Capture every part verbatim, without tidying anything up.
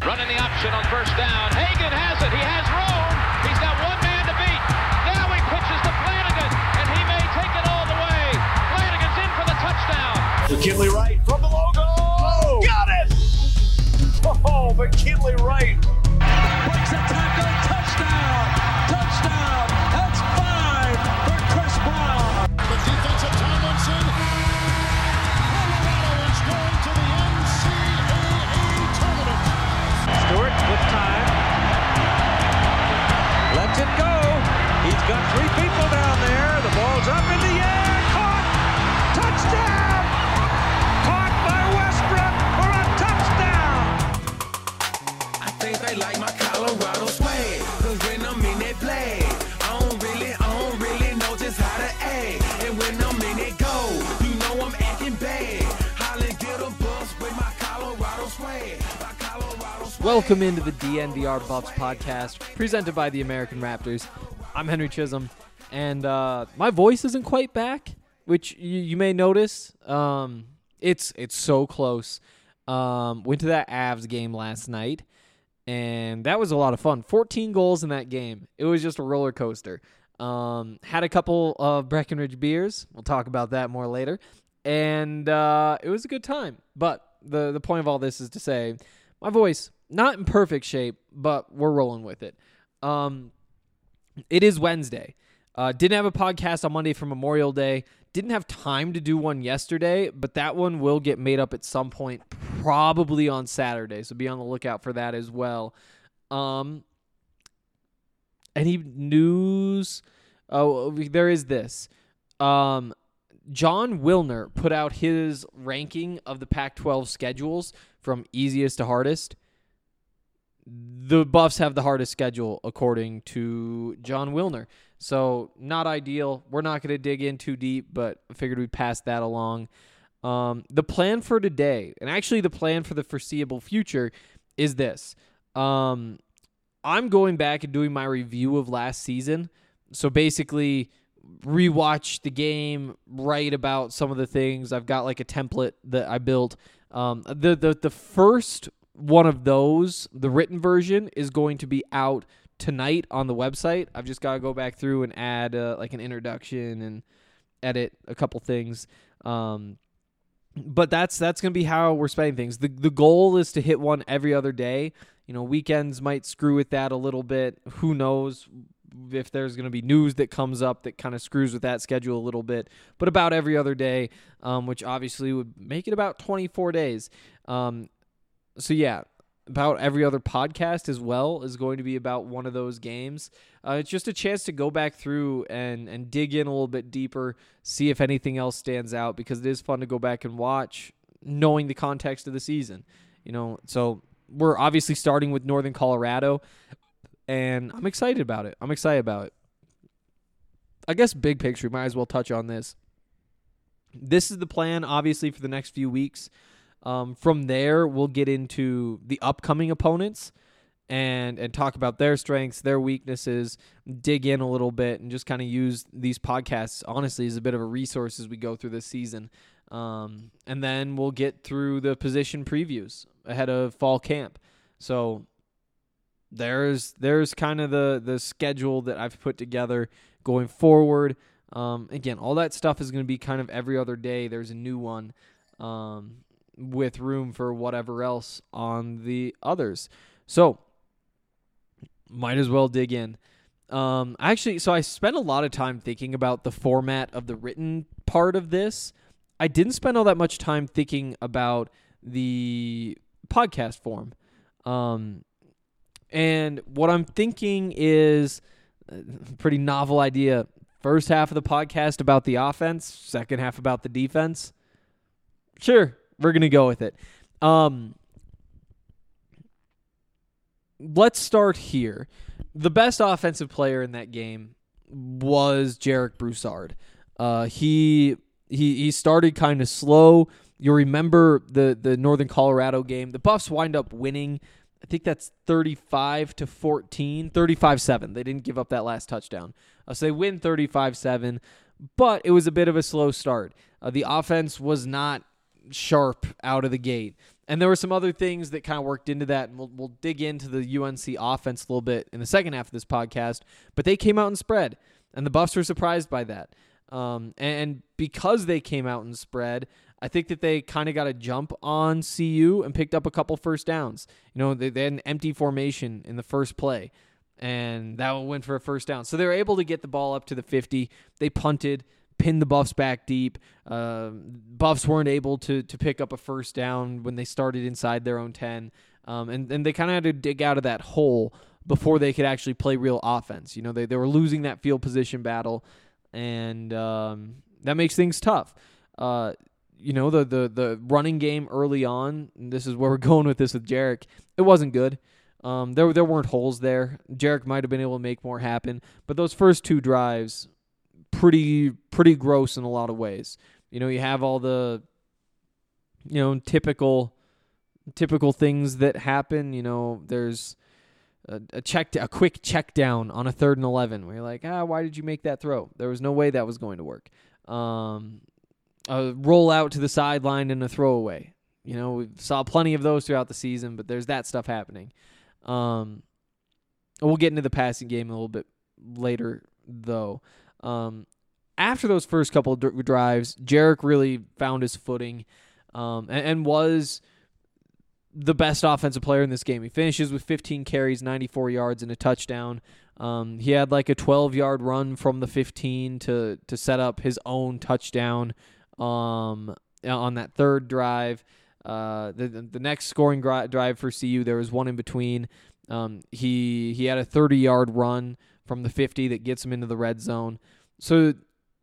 Running the option on first down. Hagan has it. He has room. He's got one man to beat. Now he pitches to Flanagan, and he may take it all the way. Flanagan's in for the touchdown. McKinley Wright from the logo. Oh, got it! Oh, McKinley Wright. Breaks a tackle. Touchdown. Touchdown. That's five for Chris Brown. The defensive Tomlinson. Colorado is going to the N C double A tournament. Stewart with time. Lets it go. He's got three people down there. The ball's up in the air. Caught. Touchdown. Caught by Westbrook for a touchdown. I think they like my Colorado swag. Cause when I'm in that play, I don't really, I don't really know just how to act. And when I'm in it go, you know I'm acting bad. Holly get a bus with my Colorado swag. My Colorado swag. Welcome into the D N V R Buffs podcast, presented by the American Raptors. I'm Henry Chisholm, and uh, my voice isn't quite back, which you, you may notice. Um, it's it's so close. Um, went to that Avs game last night, and that was a lot of fun. fourteen goals in that game. It was just a roller coaster. Um, had a couple of Breckenridge beers. We'll talk about that more later. And uh, it was a good time. But the, the point of all this is to say, my voice, not in perfect shape, but we're rolling with it. Um, it is Wednesday. Uh, didn't have a podcast on Monday for Memorial Day. Didn't have time to do one yesterday, but that one will get made up at some point, probably on Saturday. So be on the lookout for that as well. Um, any news? Oh, there is this. Um, John Wilner put out his ranking of the Pac twelve schedules from easiest to hardest. The Buffs have the hardest schedule, according to John Wilner. So, not ideal. We're not going to dig in too deep, but I figured we'd pass that along. Um, the plan for today, and actually the plan for the foreseeable future, is this. Um, I'm going back and doing my review of last season. So, basically, rewatch the game, write about some of the things. I've got like a template that I built. Um, the, the, the first one of those, the written version, is going to be out tonight on the website. I've just got to go back through and add uh, like an introduction and edit a couple things. Um, but that's that's going to be how we're spending things. The the goal is to hit one every other day. You know, weekends might screw with that a little bit. Who knows if there's going to be news that comes up that kind of screws with that schedule a little bit. But about every other day, um, which obviously would make it about twenty-four days. Um, so yeah, about every other podcast as well is going to be about one of those games. Uh, it's just a chance to go back through and, and dig in a little bit deeper, see if anything else stands out, because it is fun to go back and watch, knowing the context of the season. You know, so we're obviously starting with Northern Colorado, and I'm excited about it. I'm excited about it. I guess big picture, might as well touch on this. This is the plan, obviously, for the next few weeks. Um, from there, we'll get into the upcoming opponents and and talk about their strengths, their weaknesses, dig in a little bit, and just kind of use these podcasts, honestly, as a bit of a resource as we go through this season. Um, and then we'll get through the position previews ahead of fall camp. So there's there's kind of the, the schedule that I've put together going forward. Um, again, all that stuff is going to be kind of every other day. There's a new one. Um with room for whatever else on the others. So, might as well dig in. Um, actually, so I spent a lot of time thinking about the format of the written part of this. I didn't spend all that much time thinking about the podcast form. Um, and what I'm thinking is a pretty novel idea. First half of the podcast about the offense, second half about the defense. Sure. We're going to go with it. Um, let's start here. The best offensive player in that game was Jarek Broussard. Uh, he he he started kind of slow. You'll remember the, the Northern Colorado game. The Buffs wind up winning. I think that's thirty-five to fourteen, thirty-five seven. They didn't give up that last touchdown. Uh, so they win thirty-five seven, but it was a bit of a slow start. Uh, the offense was not sharp out of the gate. And there were some other things that kind of worked into that, and we'll, we'll dig into the U N C offense a little bit in the second half of this podcast. But they came out and spread, and the Buffs were surprised by that. Um, and because they came out and spread, I think that they kind of got a jump on C U and picked up a couple first downs. You know, they, they had an empty formation in the first play, and that went for a first down. So they were able to get the ball up to the fifty. They punted, pinned the Buffs back deep. Uh, Buffs weren't able to to pick up a first down when they started inside their own ten. Um, and, and they kind of had to dig out of that hole before they could actually play real offense. You know, they, they were losing that field position battle, and um, that makes things tough. Uh, you know, the, the the running game early on, and this is where we're going with this with Jarek, it wasn't good. Um, there, there weren't holes there. Jarek might have been able to make more happen, but those first two drives, pretty pretty gross in a lot of ways. You know, you have all the, you know, typical typical things that happen. You know, there's a, a check a quick check down on a third and eleven where you're like, ah, why did you make that throw? There was no way that was going to work. Um, a roll out to the sideline and a throwaway. You know, we saw plenty of those throughout the season, but there's that stuff happening. Um, we'll get into the passing game a little bit later, though. Um, after those first couple of d- drives, Jarek really found his footing um, and, and was the best offensive player in this game. He finishes with fifteen carries, ninety-four yards, and a touchdown. Um, he had like a twelve-yard run from the fifteen to to set up his own touchdown um, on that third drive. Uh, the the next scoring gri- drive for C U, there was one in between. Um, he he had a thirty-yard run from the fifty that gets him into the red zone. So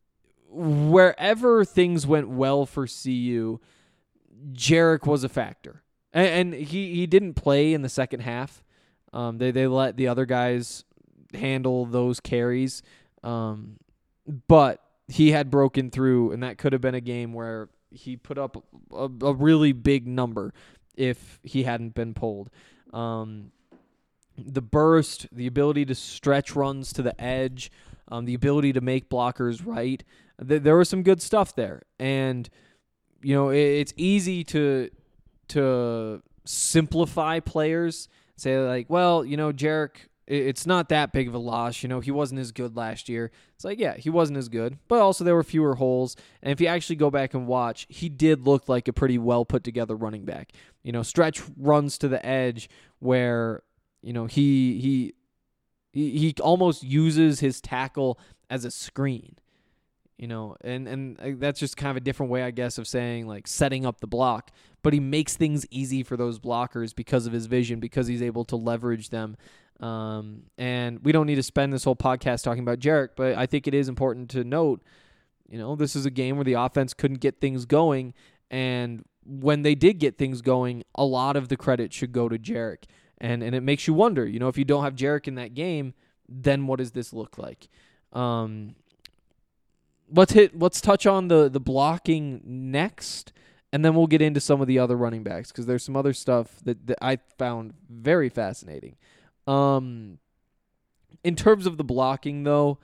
wherever things went well for C U, Jarek was a factor. And, and he, he didn't play in the second half. Um, they, they let the other guys handle those carries. Um, but he had broken through, and that could have been a game where he put up a, a really big number if he hadn't been pulled. Um, the burst, the ability to stretch runs to the edge, um, the ability to make blockers right. Th- there was some good stuff there. And, you know, it, it's easy to to simplify players, say like, well, you know, Jarek, it's not that big of a loss. You know, he wasn't as good last year. It's like, yeah, he wasn't as good, but also there were fewer holes. And if you actually go back and watch, he did look like a pretty well put together running back. You know, stretch runs to the edge where, you know, he he he, he almost uses his tackle as a screen. You know, and, and that's just kind of a different way, I guess, of saying, like, setting up the block. But he makes things easy for those blockers because of his vision, because he's able to leverage them. Um, and we don't need to spend this whole podcast talking about Jarek, but I think it is important to note, you know, this is a game where the offense couldn't get things going. And when they did get things going, a lot of the credit should go to Jarek. And, and it makes you wonder, you know, if you don't have Jarek in that game, then what does this look like? Um Let's hit. Let's touch on the, the blocking next, and then we'll get into some of the other running backs because there's some other stuff that, that I found very fascinating. Um, in terms of the blocking, though,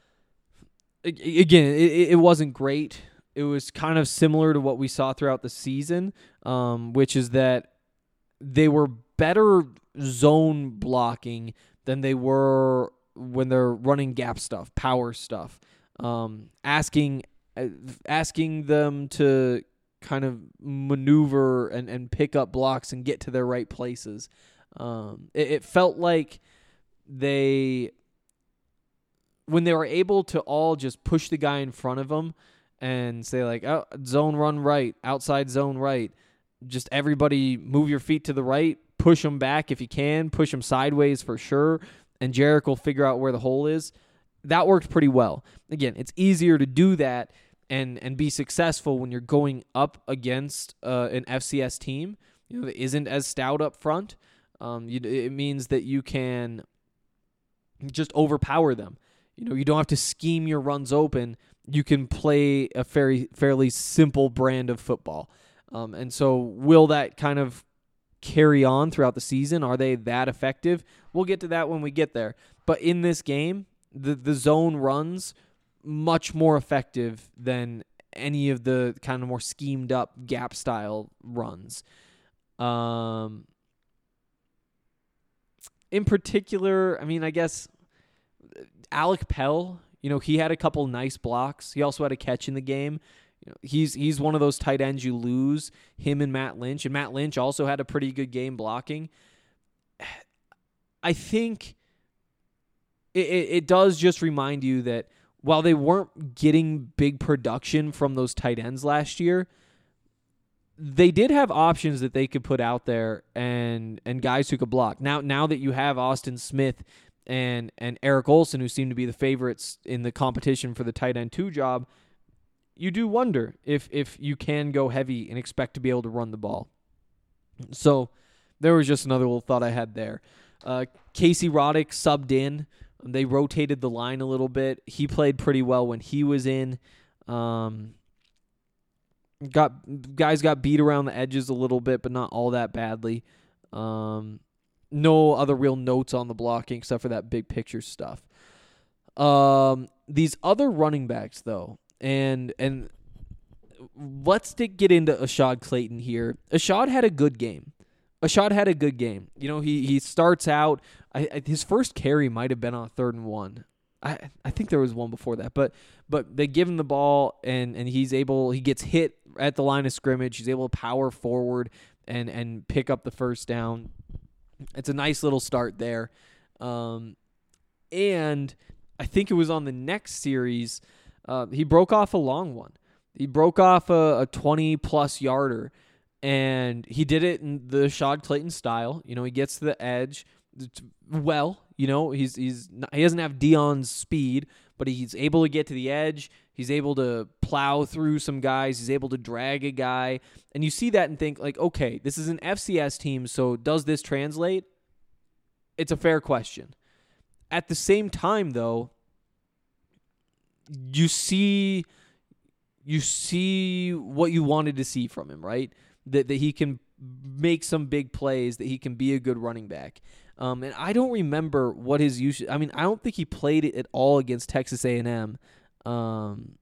again, it, it wasn't great. It was kind of similar to what we saw throughout the season, um, which is that they were better zone blocking than they were when they're running gap stuff, power stuff. Um, asking uh, asking them to kind of maneuver and, and pick up blocks and get to their right places. Um, it, it felt like they, when they were able to all just push the guy in front of them and say like, oh, zone run right, outside zone right, just everybody move your feet to the right, push them back if you can, push them sideways for sure, and Jarek will figure out where the hole is. That worked pretty well. Again, it's easier to do that and and be successful when you're going up against uh, an F C S team, you know, that isn't as stout up front. Um, you, it means that you can just overpower them. You know, you don't have to scheme your runs open. You can play a very fairly simple brand of football. Um, and so, will that kind of carry on throughout the season? Are they that effective? We'll get to that when we get there. But in this game, The the zone runs much more effective than any of the kind of more schemed up gap style runs. Um, in particular, I mean, I guess Alec Pell, you know, he had a couple nice blocks. He also had a catch in the game. You know, he's he's one of those tight ends you lose, him and Matt Lynch. And Matt Lynch also had a pretty good game blocking. I think it, it, it does just remind you that while they weren't getting big production from those tight ends last year, they did have options that they could put out there and and guys who could block. Now now that you have Austin Smith and and Eric Olsen, who seem to be the favorites in the competition for the tight end two job, you do wonder if if you can go heavy and expect to be able to run the ball. So there was just another little thought I had there. Uh, Casey Roddick subbed in. They rotated the line a little bit. He played pretty well when he was in. Um, got guys got beat around the edges a little bit, but not all that badly. Um, no other real notes on the blocking except for that big picture stuff. Um, these other running backs, though, and and let's get into Ashad Clayton here. Ashad had a good game. Ashad had a good game. You know, he he starts out. I, I, his first carry might have been on third and one. I I think there was one before that, but but they give him the ball and and he's able. He gets hit at the line of scrimmage. He's able to power forward and and pick up the first down. It's a nice little start there, um, and I think it was on the next series. Uh, he broke off a long one. He broke off a, a twenty plus yarder. And he did it in the Ashad Clayton style. You know, he gets to the edge well. You know, he's he's not, he doesn't have Deion's speed, but he's able to get to the edge. He's able to plow through some guys. He's able to drag a guy. And you see that and think, like, okay, this is an F C S team, so does this translate? It's a fair question. At the same time, though, you see you see what you wanted to see from him, right? That that he can make some big plays, that he can be a good running back. Um, and I don't remember what his usage. I mean, I don't think he played it at all against Texas A and M. Um,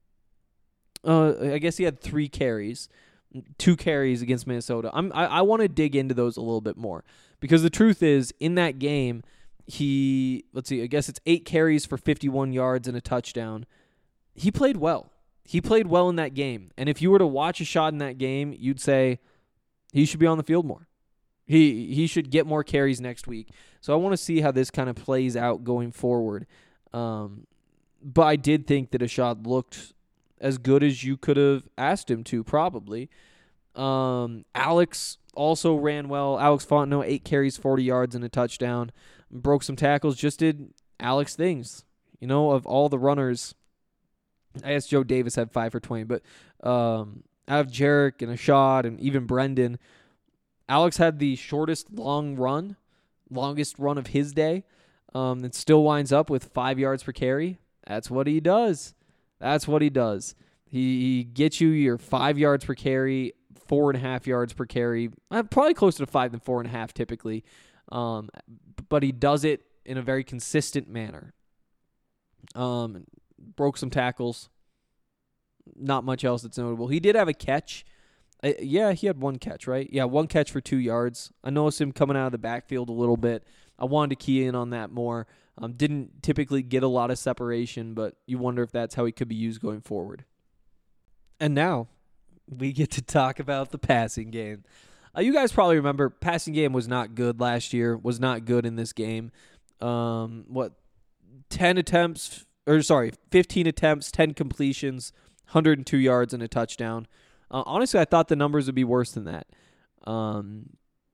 uh, I guess he had three carries, two carries against Minnesota. I'm, I I want to dig into those a little bit more because the truth is, in that game, he let's see, I guess it's eight carries for fifty-one yards and a touchdown. He played well. He played well in that game. And if you were to watch Ashad in that game, you'd say he should be on the field more. He he should get more carries next week. So I want to see how this kind of plays out going forward. Um, but I did think that Ashad looked as good as you could have asked him to, probably. Um, Alex also ran well. Alex Fontenot, eight carries, forty yards, and a touchdown. Broke some tackles, just did Alex things. You know, of all the runners, I guess Joe Davis had five for twenty, but um, out of Jarek and Ashad and even Brendan, Alex had the shortest long run, longest run of his day. Um, and still winds up with five yards per carry. That's what he does. That's what he does. He, he gets you your five yards per carry, four and a half yards per carry, uh, probably closer to five than four and a half typically. Um, but he does it in a very consistent manner. Um. Broke some tackles. Not much else that's notable. He did have a catch. Uh, yeah, he had one catch, right? Yeah, one catch for two yards. I noticed him coming out of the backfield a little bit. I wanted to key in on that more. Um, didn't typically get a lot of separation, but you wonder if that's how he could be used going forward. And now we get to talk about the passing game. Uh, you guys probably remember passing game was not good last year, was not good in this game. Um, what, ten attempts... Or sorry, fifteen attempts, ten completions, one hundred two yards, and a touchdown. Uh, honestly, I thought the numbers would be worse than that. Um,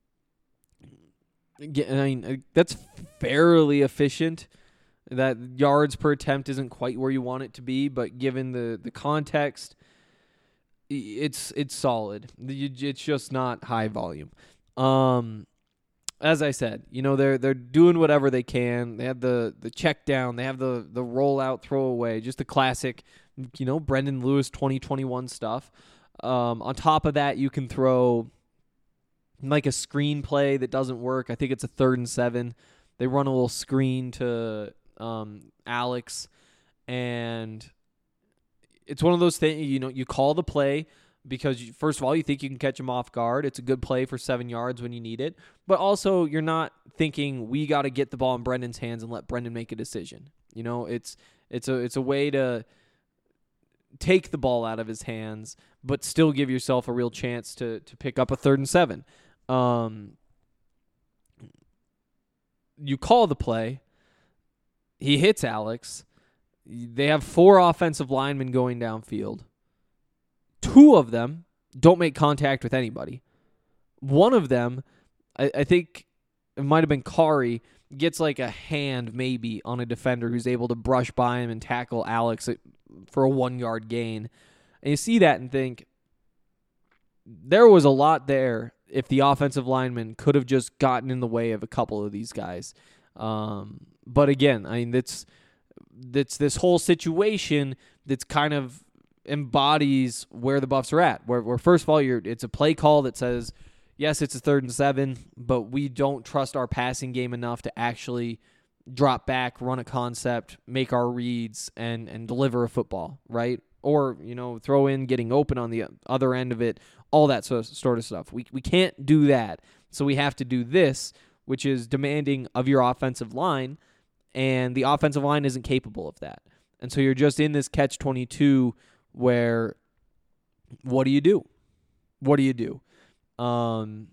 I mean, that's fairly efficient. That yards per attempt isn't quite where you want it to be, but given the, the context, it's it's solid. It's just not high volume. Um, as I said, you know, they're they're doing whatever they can. They have the the check down, they have the the rollout throwaway, just the classic, you know, Brendan Lewis twenty twenty-one stuff. Um, on top of that, you can throw like a screen play that doesn't work. I think it's a third and seven. They run a little screen to um, Alex, and it's one of those things, you know, you call the play because, you, first of all, you think you can catch him off guard. It's a good play for seven yards when you need it. But also, you're not thinking, we got to get the ball in Brendan's hands and let Brendan make a decision. You know, it's it's a it's a way to take the ball out of his hands, but still give yourself a real chance to to pick up a third and seven. Um, you call the play. He hits Alex. They have four offensive linemen going downfield. Two of them don't make contact with anybody. One of them, I, I think it might have been Kari, gets like a hand maybe on a defender who's able to brush by him and tackle Alex for a one-yard gain. And you see that and think, there was a lot there if the offensive lineman could have just gotten in the way of a couple of these guys. Um, but again, I mean, that's, that's this whole situation that's kind of embodies where the Buffs are at. Where, where first of all, you're it's a play call that says, yes, it's a third and seven, but we don't trust our passing game enough to actually drop back, run a concept, make our reads, and and deliver a football, right? Or, you know, throw in getting open on the other end of it, all that sort of stuff. We we can't do that, so we have to do this, which is demanding of your offensive line, and the offensive line isn't capable of that. And so you're just in this catch twenty-two where, what do you do? What do you do? Um.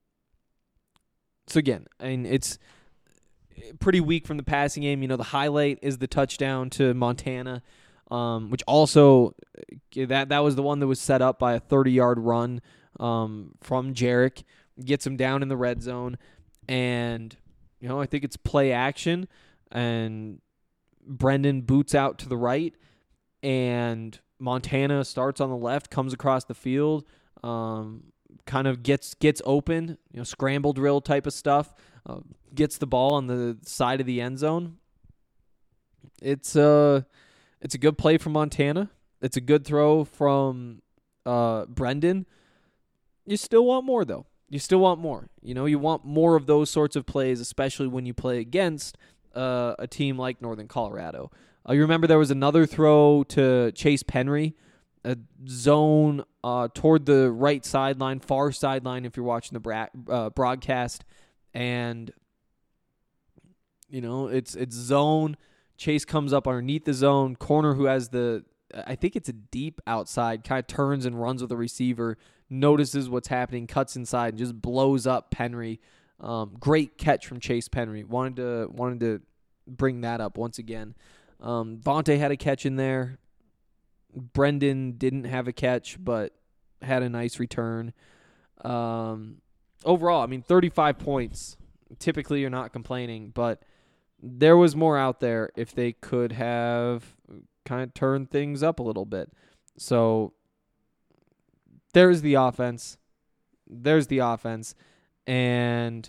So again, I mean, it's pretty weak from the passing game. You know, the highlight is the touchdown to Montana, um, which also that that was the one that was set up by a thirty-yard run um, from Jarek. Gets him down in the red zone, and you know, I think it's play action, and Brendan boots out to the right, and Montana starts on the left, comes across the field, um, kind of gets gets open, you know, scramble drill type of stuff, uh, gets the ball on the side of the end zone. It's a, it's a good play from Montana. It's a good throw from uh, Brendan. You still want more, though. You still want more. You know, you want more of those sorts of plays, especially when you play against uh, a team like Northern Colorado. Uh, you remember there was another throw to Chase Penry, a zone uh, toward the right sideline, far sideline if you're watching the bra- uh, broadcast. And, you know, it's it's zone. Chase comes up underneath the zone. Corner who has the, I think it's a deep outside, kind of turns and runs with the receiver, notices what's happening, cuts inside, and just blows up Penry. Um, great catch from Chase Penry. Wanted to wanted to bring that up once again. Um, Vontae had a catch in there. Brendan didn't have a catch, but had a nice return. Um, overall, I mean, thirty-five points. Typically, you're not complaining, but there was more out there if they could have kind of turned things up a little bit. So there's the offense. There's the offense. And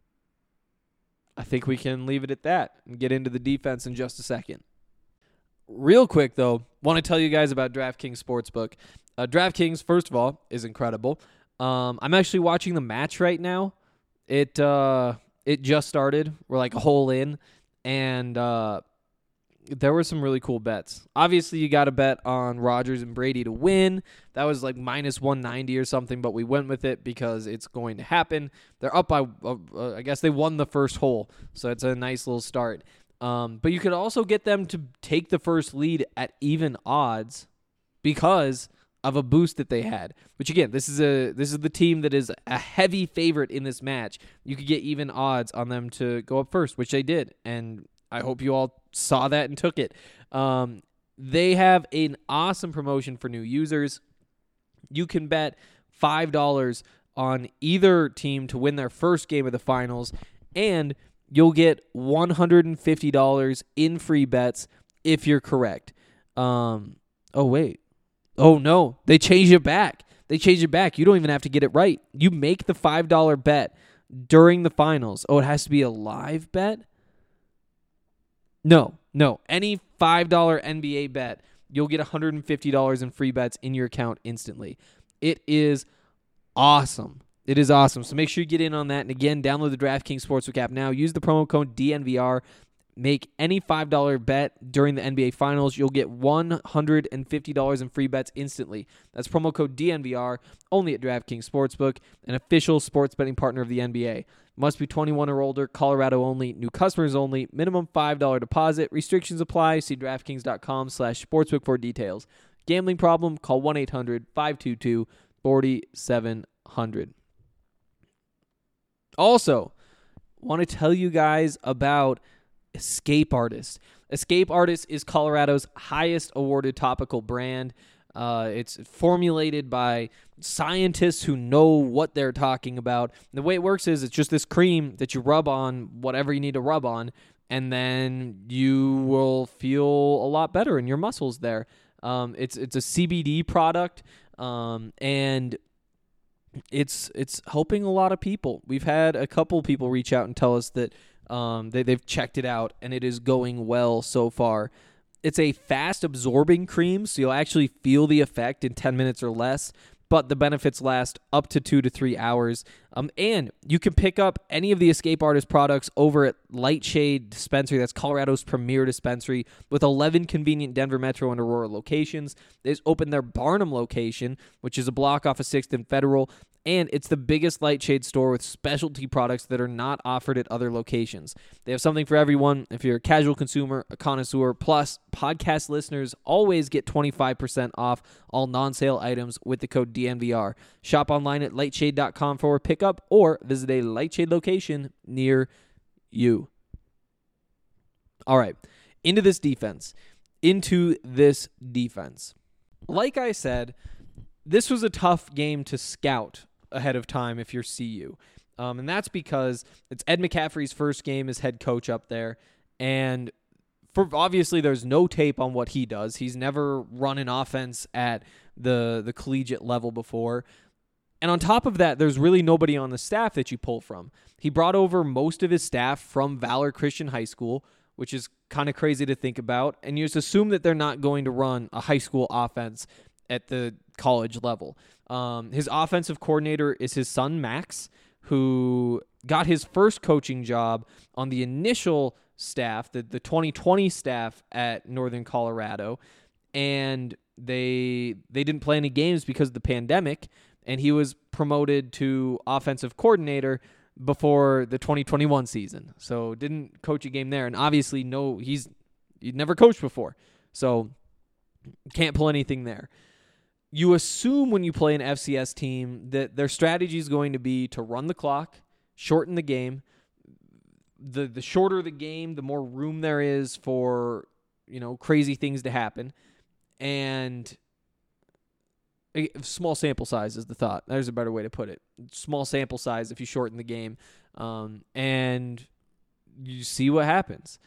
I think we can leave it at that and get into the defense in just a second. Real quick, though, want to tell you guys about DraftKings Sportsbook. Uh, DraftKings, first of all, is incredible. Um, I'm actually watching the match right now. It uh, it just started. We're like a hole in. And uh, there were some really cool bets. Obviously, you got to bet on Rodgers and Brady to win. That was like minus one ninety or something, but we went with it because it's going to happen. They're up by, uh, uh, I guess they won the first hole, so it's a nice little start. Um, but you could also get them to take the first lead at even odds because of a boost that they had. Which again, this is a this is the team that is a heavy favorite in this match. You could get even odds on them to go up first, which they did, and I hope you all saw that and took it. Um, they have an awesome promotion for new users. You can bet five dollars on either team to win their first game of the finals, and you'll get one hundred fifty dollars in free bets if you're correct. Um, oh, wait. Oh, no. They changed it back. They changed it back. You don't even have to get it right. You make the five dollars bet during the finals. Oh, it has to be a live bet? No, no. Any five dollars N B A bet, you'll get one hundred fifty dollars in free bets in your account instantly. It is awesome. It is awesome. So make sure you get in on that. And again, download the DraftKings Sportsbook app now. Use the promo code D N V R. make any five dollar bet during the N B A Finals, you'll get one hundred fifty dollars in free bets instantly. That's promo code D N V R, only at DraftKings Sportsbook, an official sports betting partner of the N B A. Must be twenty-one or older, Colorado only, new customers only, minimum five dollar deposit. Restrictions apply. See DraftKings.com slash sportsbook for details. Gambling problem? Call one eight hundred five two two four seven zero zero. Also, want to tell you guys about Escape Artist. Escape Artist is Colorado's highest awarded topical brand. Uh, it's formulated by scientists who know what they're talking about. The way it works is it's just this cream that you rub on whatever you need to rub on, and then you will feel a lot better in your muscles there. Um, it's it's a C B D product, um, and it's it's helping a lot of people. We've had a couple people reach out and tell us that um, they, they've checked it out, and it is going well so far. It's a fast-absorbing cream, so you'll actually feel the effect in ten minutes or less, but the benefits last up to two to three hours. Um, and you can pick up any of the Escape Artist products over at Lightshade Dispensary. That's Colorado's premier dispensary with eleven convenient Denver Metro and Aurora locations. They just opened their Barnum location, which is a block off of sixth and Federal, and it's the biggest Lightshade store with specialty products that are not offered at other locations. They have something for everyone. If you're a casual consumer, a connoisseur, plus podcast listeners always get twenty-five percent off all non-sale items with the code D N V R. Shop online at lightshade dot com for pickup or visit a Lightshade location near you. All right, into this defense. Into this defense. Like I said, this was a tough game to scout ahead of time if you're C U. Um, and that's because it's Ed McCaffrey's first game as head coach up there. And for obviously there's no tape on what he does. He's never run an offense at the, the collegiate level before. And on top of that, there's really nobody on the staff that you pull from. He brought over most of his staff from Valor Christian High School, which is kind of crazy to think about. And you just assume that they're not going to run a high school offense at the college level. Um, his offensive coordinator is his son, Max, who got his first coaching job on the initial staff, the, the twenty twenty staff at Northern Colorado. And they they didn't play any games because of the pandemic, and he was promoted to offensive coordinator before the twenty twenty-one season. So didn't coach a game there. And obviously, no, he's he'd never coached before. So can't pull anything there. You assume when you play an F C S team that their strategy is going to be to run the clock, shorten the game. The the shorter the game, the more room there is for, you know, crazy things to happen. And a small sample size is the thought. There's a better way to put it. Small sample size if you shorten the game. Um, and you see what happens.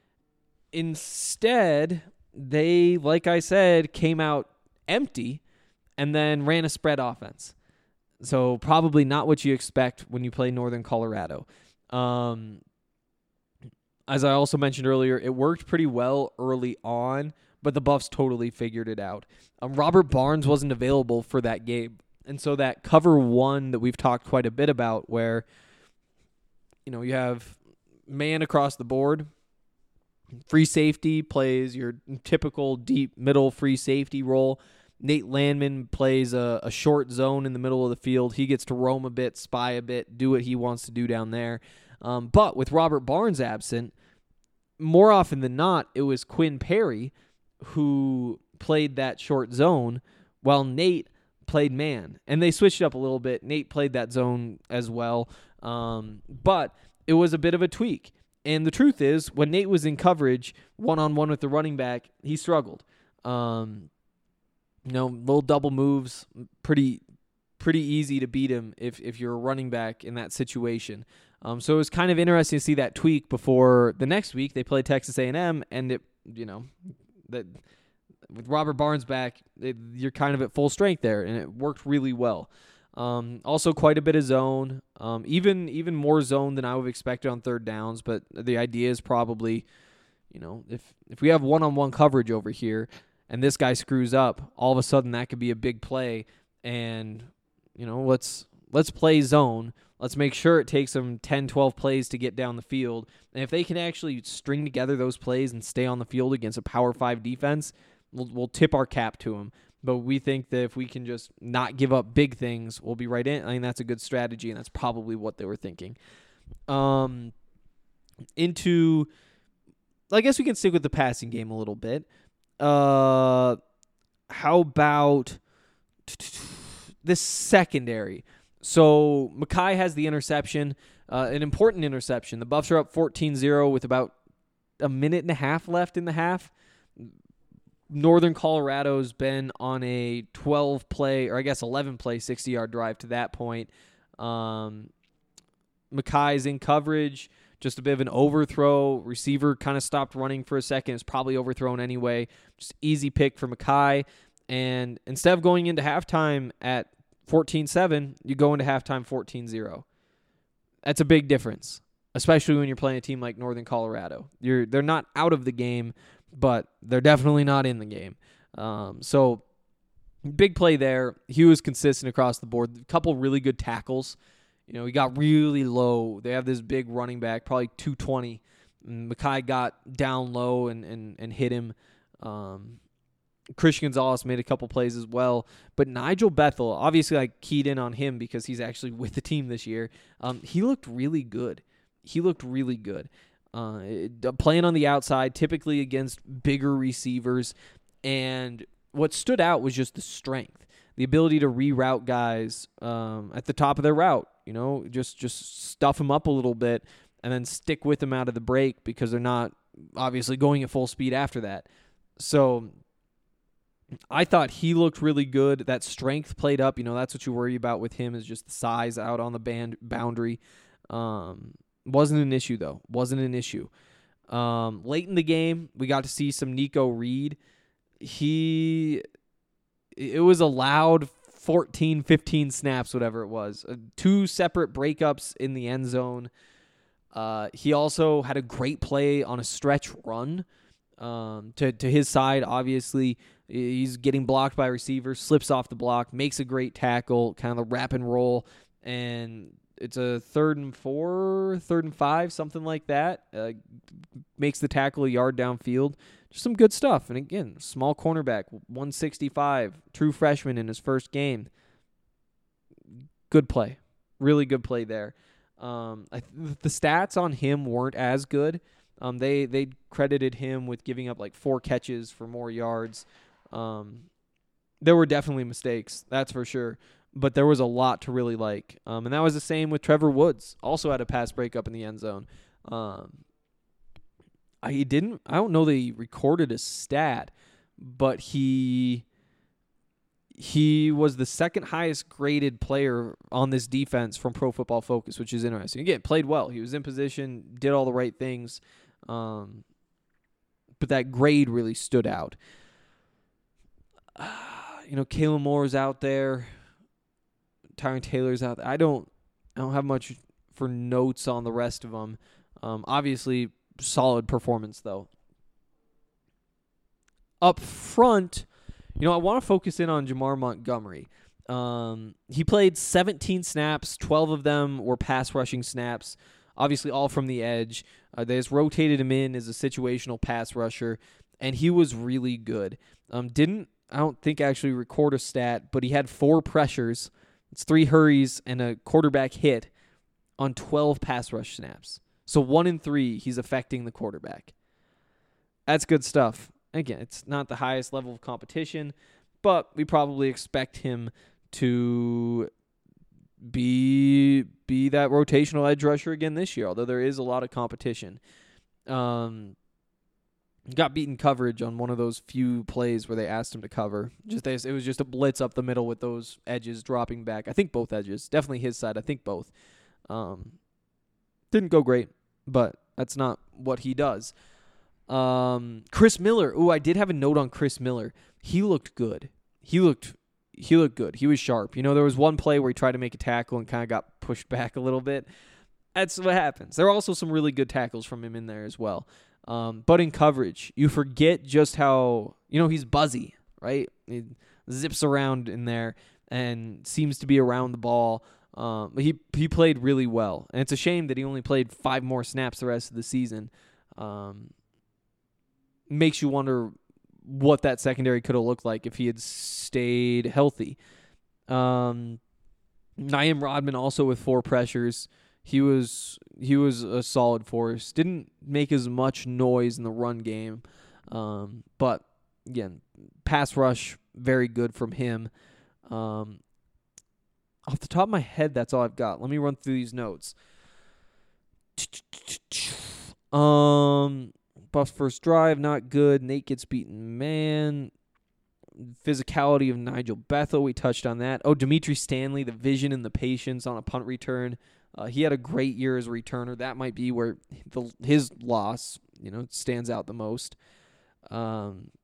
Instead, they, like I said, came out empty and then ran a spread offense. So probably not what you expect when you play Northern Colorado. Um, as I also mentioned earlier, it worked pretty well early on, but the Buffs totally figured it out. Um, Robert Barnes wasn't available for that game. And so that cover one that we've talked quite a bit about where, you know, you have man across the board, free safety plays your typical deep middle free safety role. Nate Landman plays a, a short zone in the middle of the field. He gets to roam a bit, spy a bit, do what he wants to do down there. Um, but with Robert Barnes absent, more often than not, it was Quinn Perry who played that short zone while Nate played man. And they switched up a little bit. Nate played that zone as well. Um, but it was a bit of a tweak. And the truth is, when Nate was in coverage, one-on-one with the running back, he struggled. Um, you know, little double moves, pretty pretty easy to beat him if, if you're a running back in that situation. Um, so it was kind of interesting to see that tweak before the next week they played Texas A and M, and it, you know, that with Robert Barnes back, it, you're kind of at full strength there, and it worked really well. Um, also quite a bit of zone, um, even even more zone than I would have expected on third downs. But the idea is probably, you know, if if we have one-on-one coverage over here and this guy screws up, all of a sudden that could be a big play. And you know, let's let's play zone. Let's make sure it takes them ten, twelve plays to get down the field. And if they can actually string together those plays and stay on the field against a Power five defense, we'll, we'll tip our cap to them. But we think that if we can just not give up big things, we'll be right in. I think that's a good strategy, and that's probably what they were thinking. Um, into, I guess we can stick with the passing game a little bit. Uh, how about this secondary? So Mekhi has the interception, uh, an important interception. The Buffs are up fourteen zero with about a minute and a half left in the half. Northern Colorado's been on a twelve-play, or I guess eleven-play, sixty-yard drive to that point. Um, Mekhi's in coverage, just a bit of an overthrow. Receiver kind of stopped running for a second. It's probably overthrown anyway. Just easy pick for Mekhi. And instead of going into halftime at fourteen seven, you go into halftime fourteen zero. That's a big difference, especially when you're playing a team like Northern Colorado. You're They're not out of the game, but they're definitely not in the game. Um, so big play there. He was consistent across the board. A couple really good tackles. You know, he got really low. They have this big running back, probably two twenty. Mekhi got down low and, and, and hit him. Um, Christian Gonzalez made a couple plays as well. But Nigel Bethel, obviously I keyed in on him because he's actually with the team this year. Um, he looked really good. He looked really good. Uh, playing on the outside, typically against bigger receivers. And what stood out was just the strength, the ability to reroute guys um, at the top of their route. You know, just just stuff them up a little bit and then stick with them out of the break because they're not obviously going at full speed after that. So I thought he looked really good. That strength played up. You know, that's what you worry about with him is just the size out on the band boundary. Um, wasn't an issue, though. Wasn't an issue. Um, late in the game, we got to see some Nico Reed. He, it was a loud fourteen, fifteen snaps, whatever it was. Uh, two separate breakups in the end zone. Uh, he also had a great play on a stretch run um, to, to his side, obviously. He's getting blocked by a receiver, slips off the block, makes a great tackle, kind of the wrap and roll, and it's a third and four, third and five, something like that. Uh, makes the tackle a yard downfield. Just some good stuff. And again, small cornerback, one sixty-five, true freshman in his first game. Good play. Really good play there. Um, I th- the stats on him weren't as good. Um, they they credited him with giving up like four catches for more yards. Um, there were definitely mistakes, that's for sure. But there was a lot to really like. Um, and that was the same with Trevor Woods. Also had a pass breakup in the end zone. Um, I he didn't. I don't know that he recorded a stat, but he he was the second highest graded player on this defense from Pro Football Focus, which is interesting. Again, played well. He was in position, did all the right things. Um, but that grade really stood out. Uh, you know, Kalen Moore's out there. Tyron Taylor's out there. I don't, I don't have much for notes on the rest of them. Um, obviously, solid performance though. Up front, you know, I want to focus in on Jamar Montgomery. Um, he played seventeen snaps. twelve of them were pass rushing snaps. Obviously, all from the edge. Uh, they just rotated him in as a situational pass rusher, and he was really good. Um, didn't I don't think actually record a stat, but he had four pressures. It's three hurries and a quarterback hit on twelve pass rush snaps. So one in three, he's affecting the quarterback. That's good stuff. Again, it's not the highest level of competition, but we probably expect him to be be that rotational edge rusher again this year, although there is a lot of competition. Um, got beaten coverage on one of those few plays where they asked him to cover. Just It was just a blitz up the middle with those edges dropping back. I think both edges. Definitely his side. I think both. Um, didn't go great, but that's not what he does. Um, Chris Miller. Ooh, I did have a note on Chris Miller. He looked good. He looked he looked good. He was sharp. You know, there was one play where he tried to make a tackle and kind of got pushed back a little bit. That's what happens. There are also some really good tackles from him in there as well. Um, but in coverage, you forget just how, you know, he's buzzy, right? He zips around in there and seems to be around the ball. Um, but he he played really well, and it's a shame that he only played five more snaps the rest of the season. Um, makes you wonder what that secondary could have looked like if he had stayed healthy. Um, Naeem Rodman also with four pressures. He was he was a solid force. Didn't make as much noise in the run game, um, but again, pass rush very good from him. Um, off the top of my head, that's all I've got. Let me run through these notes. Um, Buffs first drive, not good. Nate gets beaten, man. Physicality of Nigel Bethel, we touched on that. Oh, Dimitri Stanley, the vision and the patience on a punt return. Uh, he had a great year as a returner. That might be where the, his loss, you know, stands out the most. Um,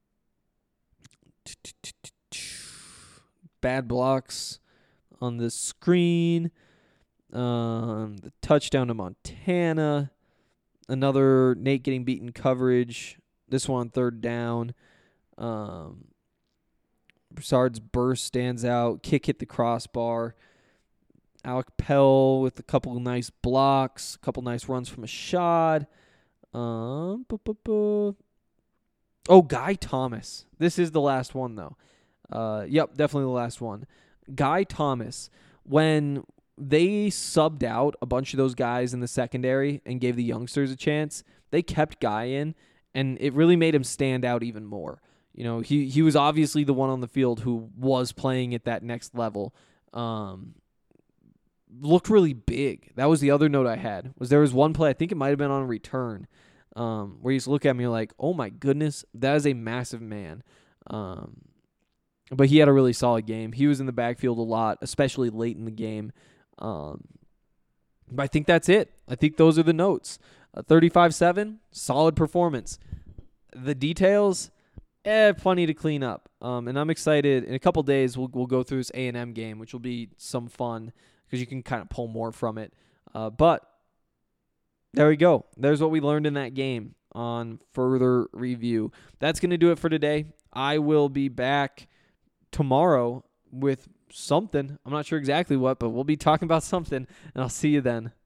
bad blocks on the screen. Um, the touchdown to Montana. Another Nate getting beaten coverage. This one third down. Um, Broussard's burst stands out. Kick hit the crossbar. Alec Pell with a couple of nice blocks. A couple nice runs from Ashad. Um, bu- bu- bu. Oh, Guy Thomas. This is the last one, though. Uh, yep, definitely the last one. Guy Thomas, when they subbed out a bunch of those guys in the secondary and gave the youngsters a chance, they kept Guy in, and it really made him stand out even more. You know, he, he was obviously the one on the field who was playing at that next level. Um, looked really big. That was the other note I had. Was there was one play, I think it might have been on a return, um, where you just look at me like, oh my goodness, that is a massive man. Um, but he had a really solid game. He was in the backfield a lot, especially late in the game. Um, but I think that's it. I think those are the notes. Uh, thirty-five seven, solid performance. The details, eh, plenty to clean up. Um, and I'm excited. In a couple days, we'll we'll go through this A and M game, which will be some fun because you can kind of pull more from it. Uh, but there we go. There's what we learned in that game on further review. That's going to do it for today. I will be back tomorrow with something. I'm not sure exactly what, but we'll be talking about something, and I'll see you then.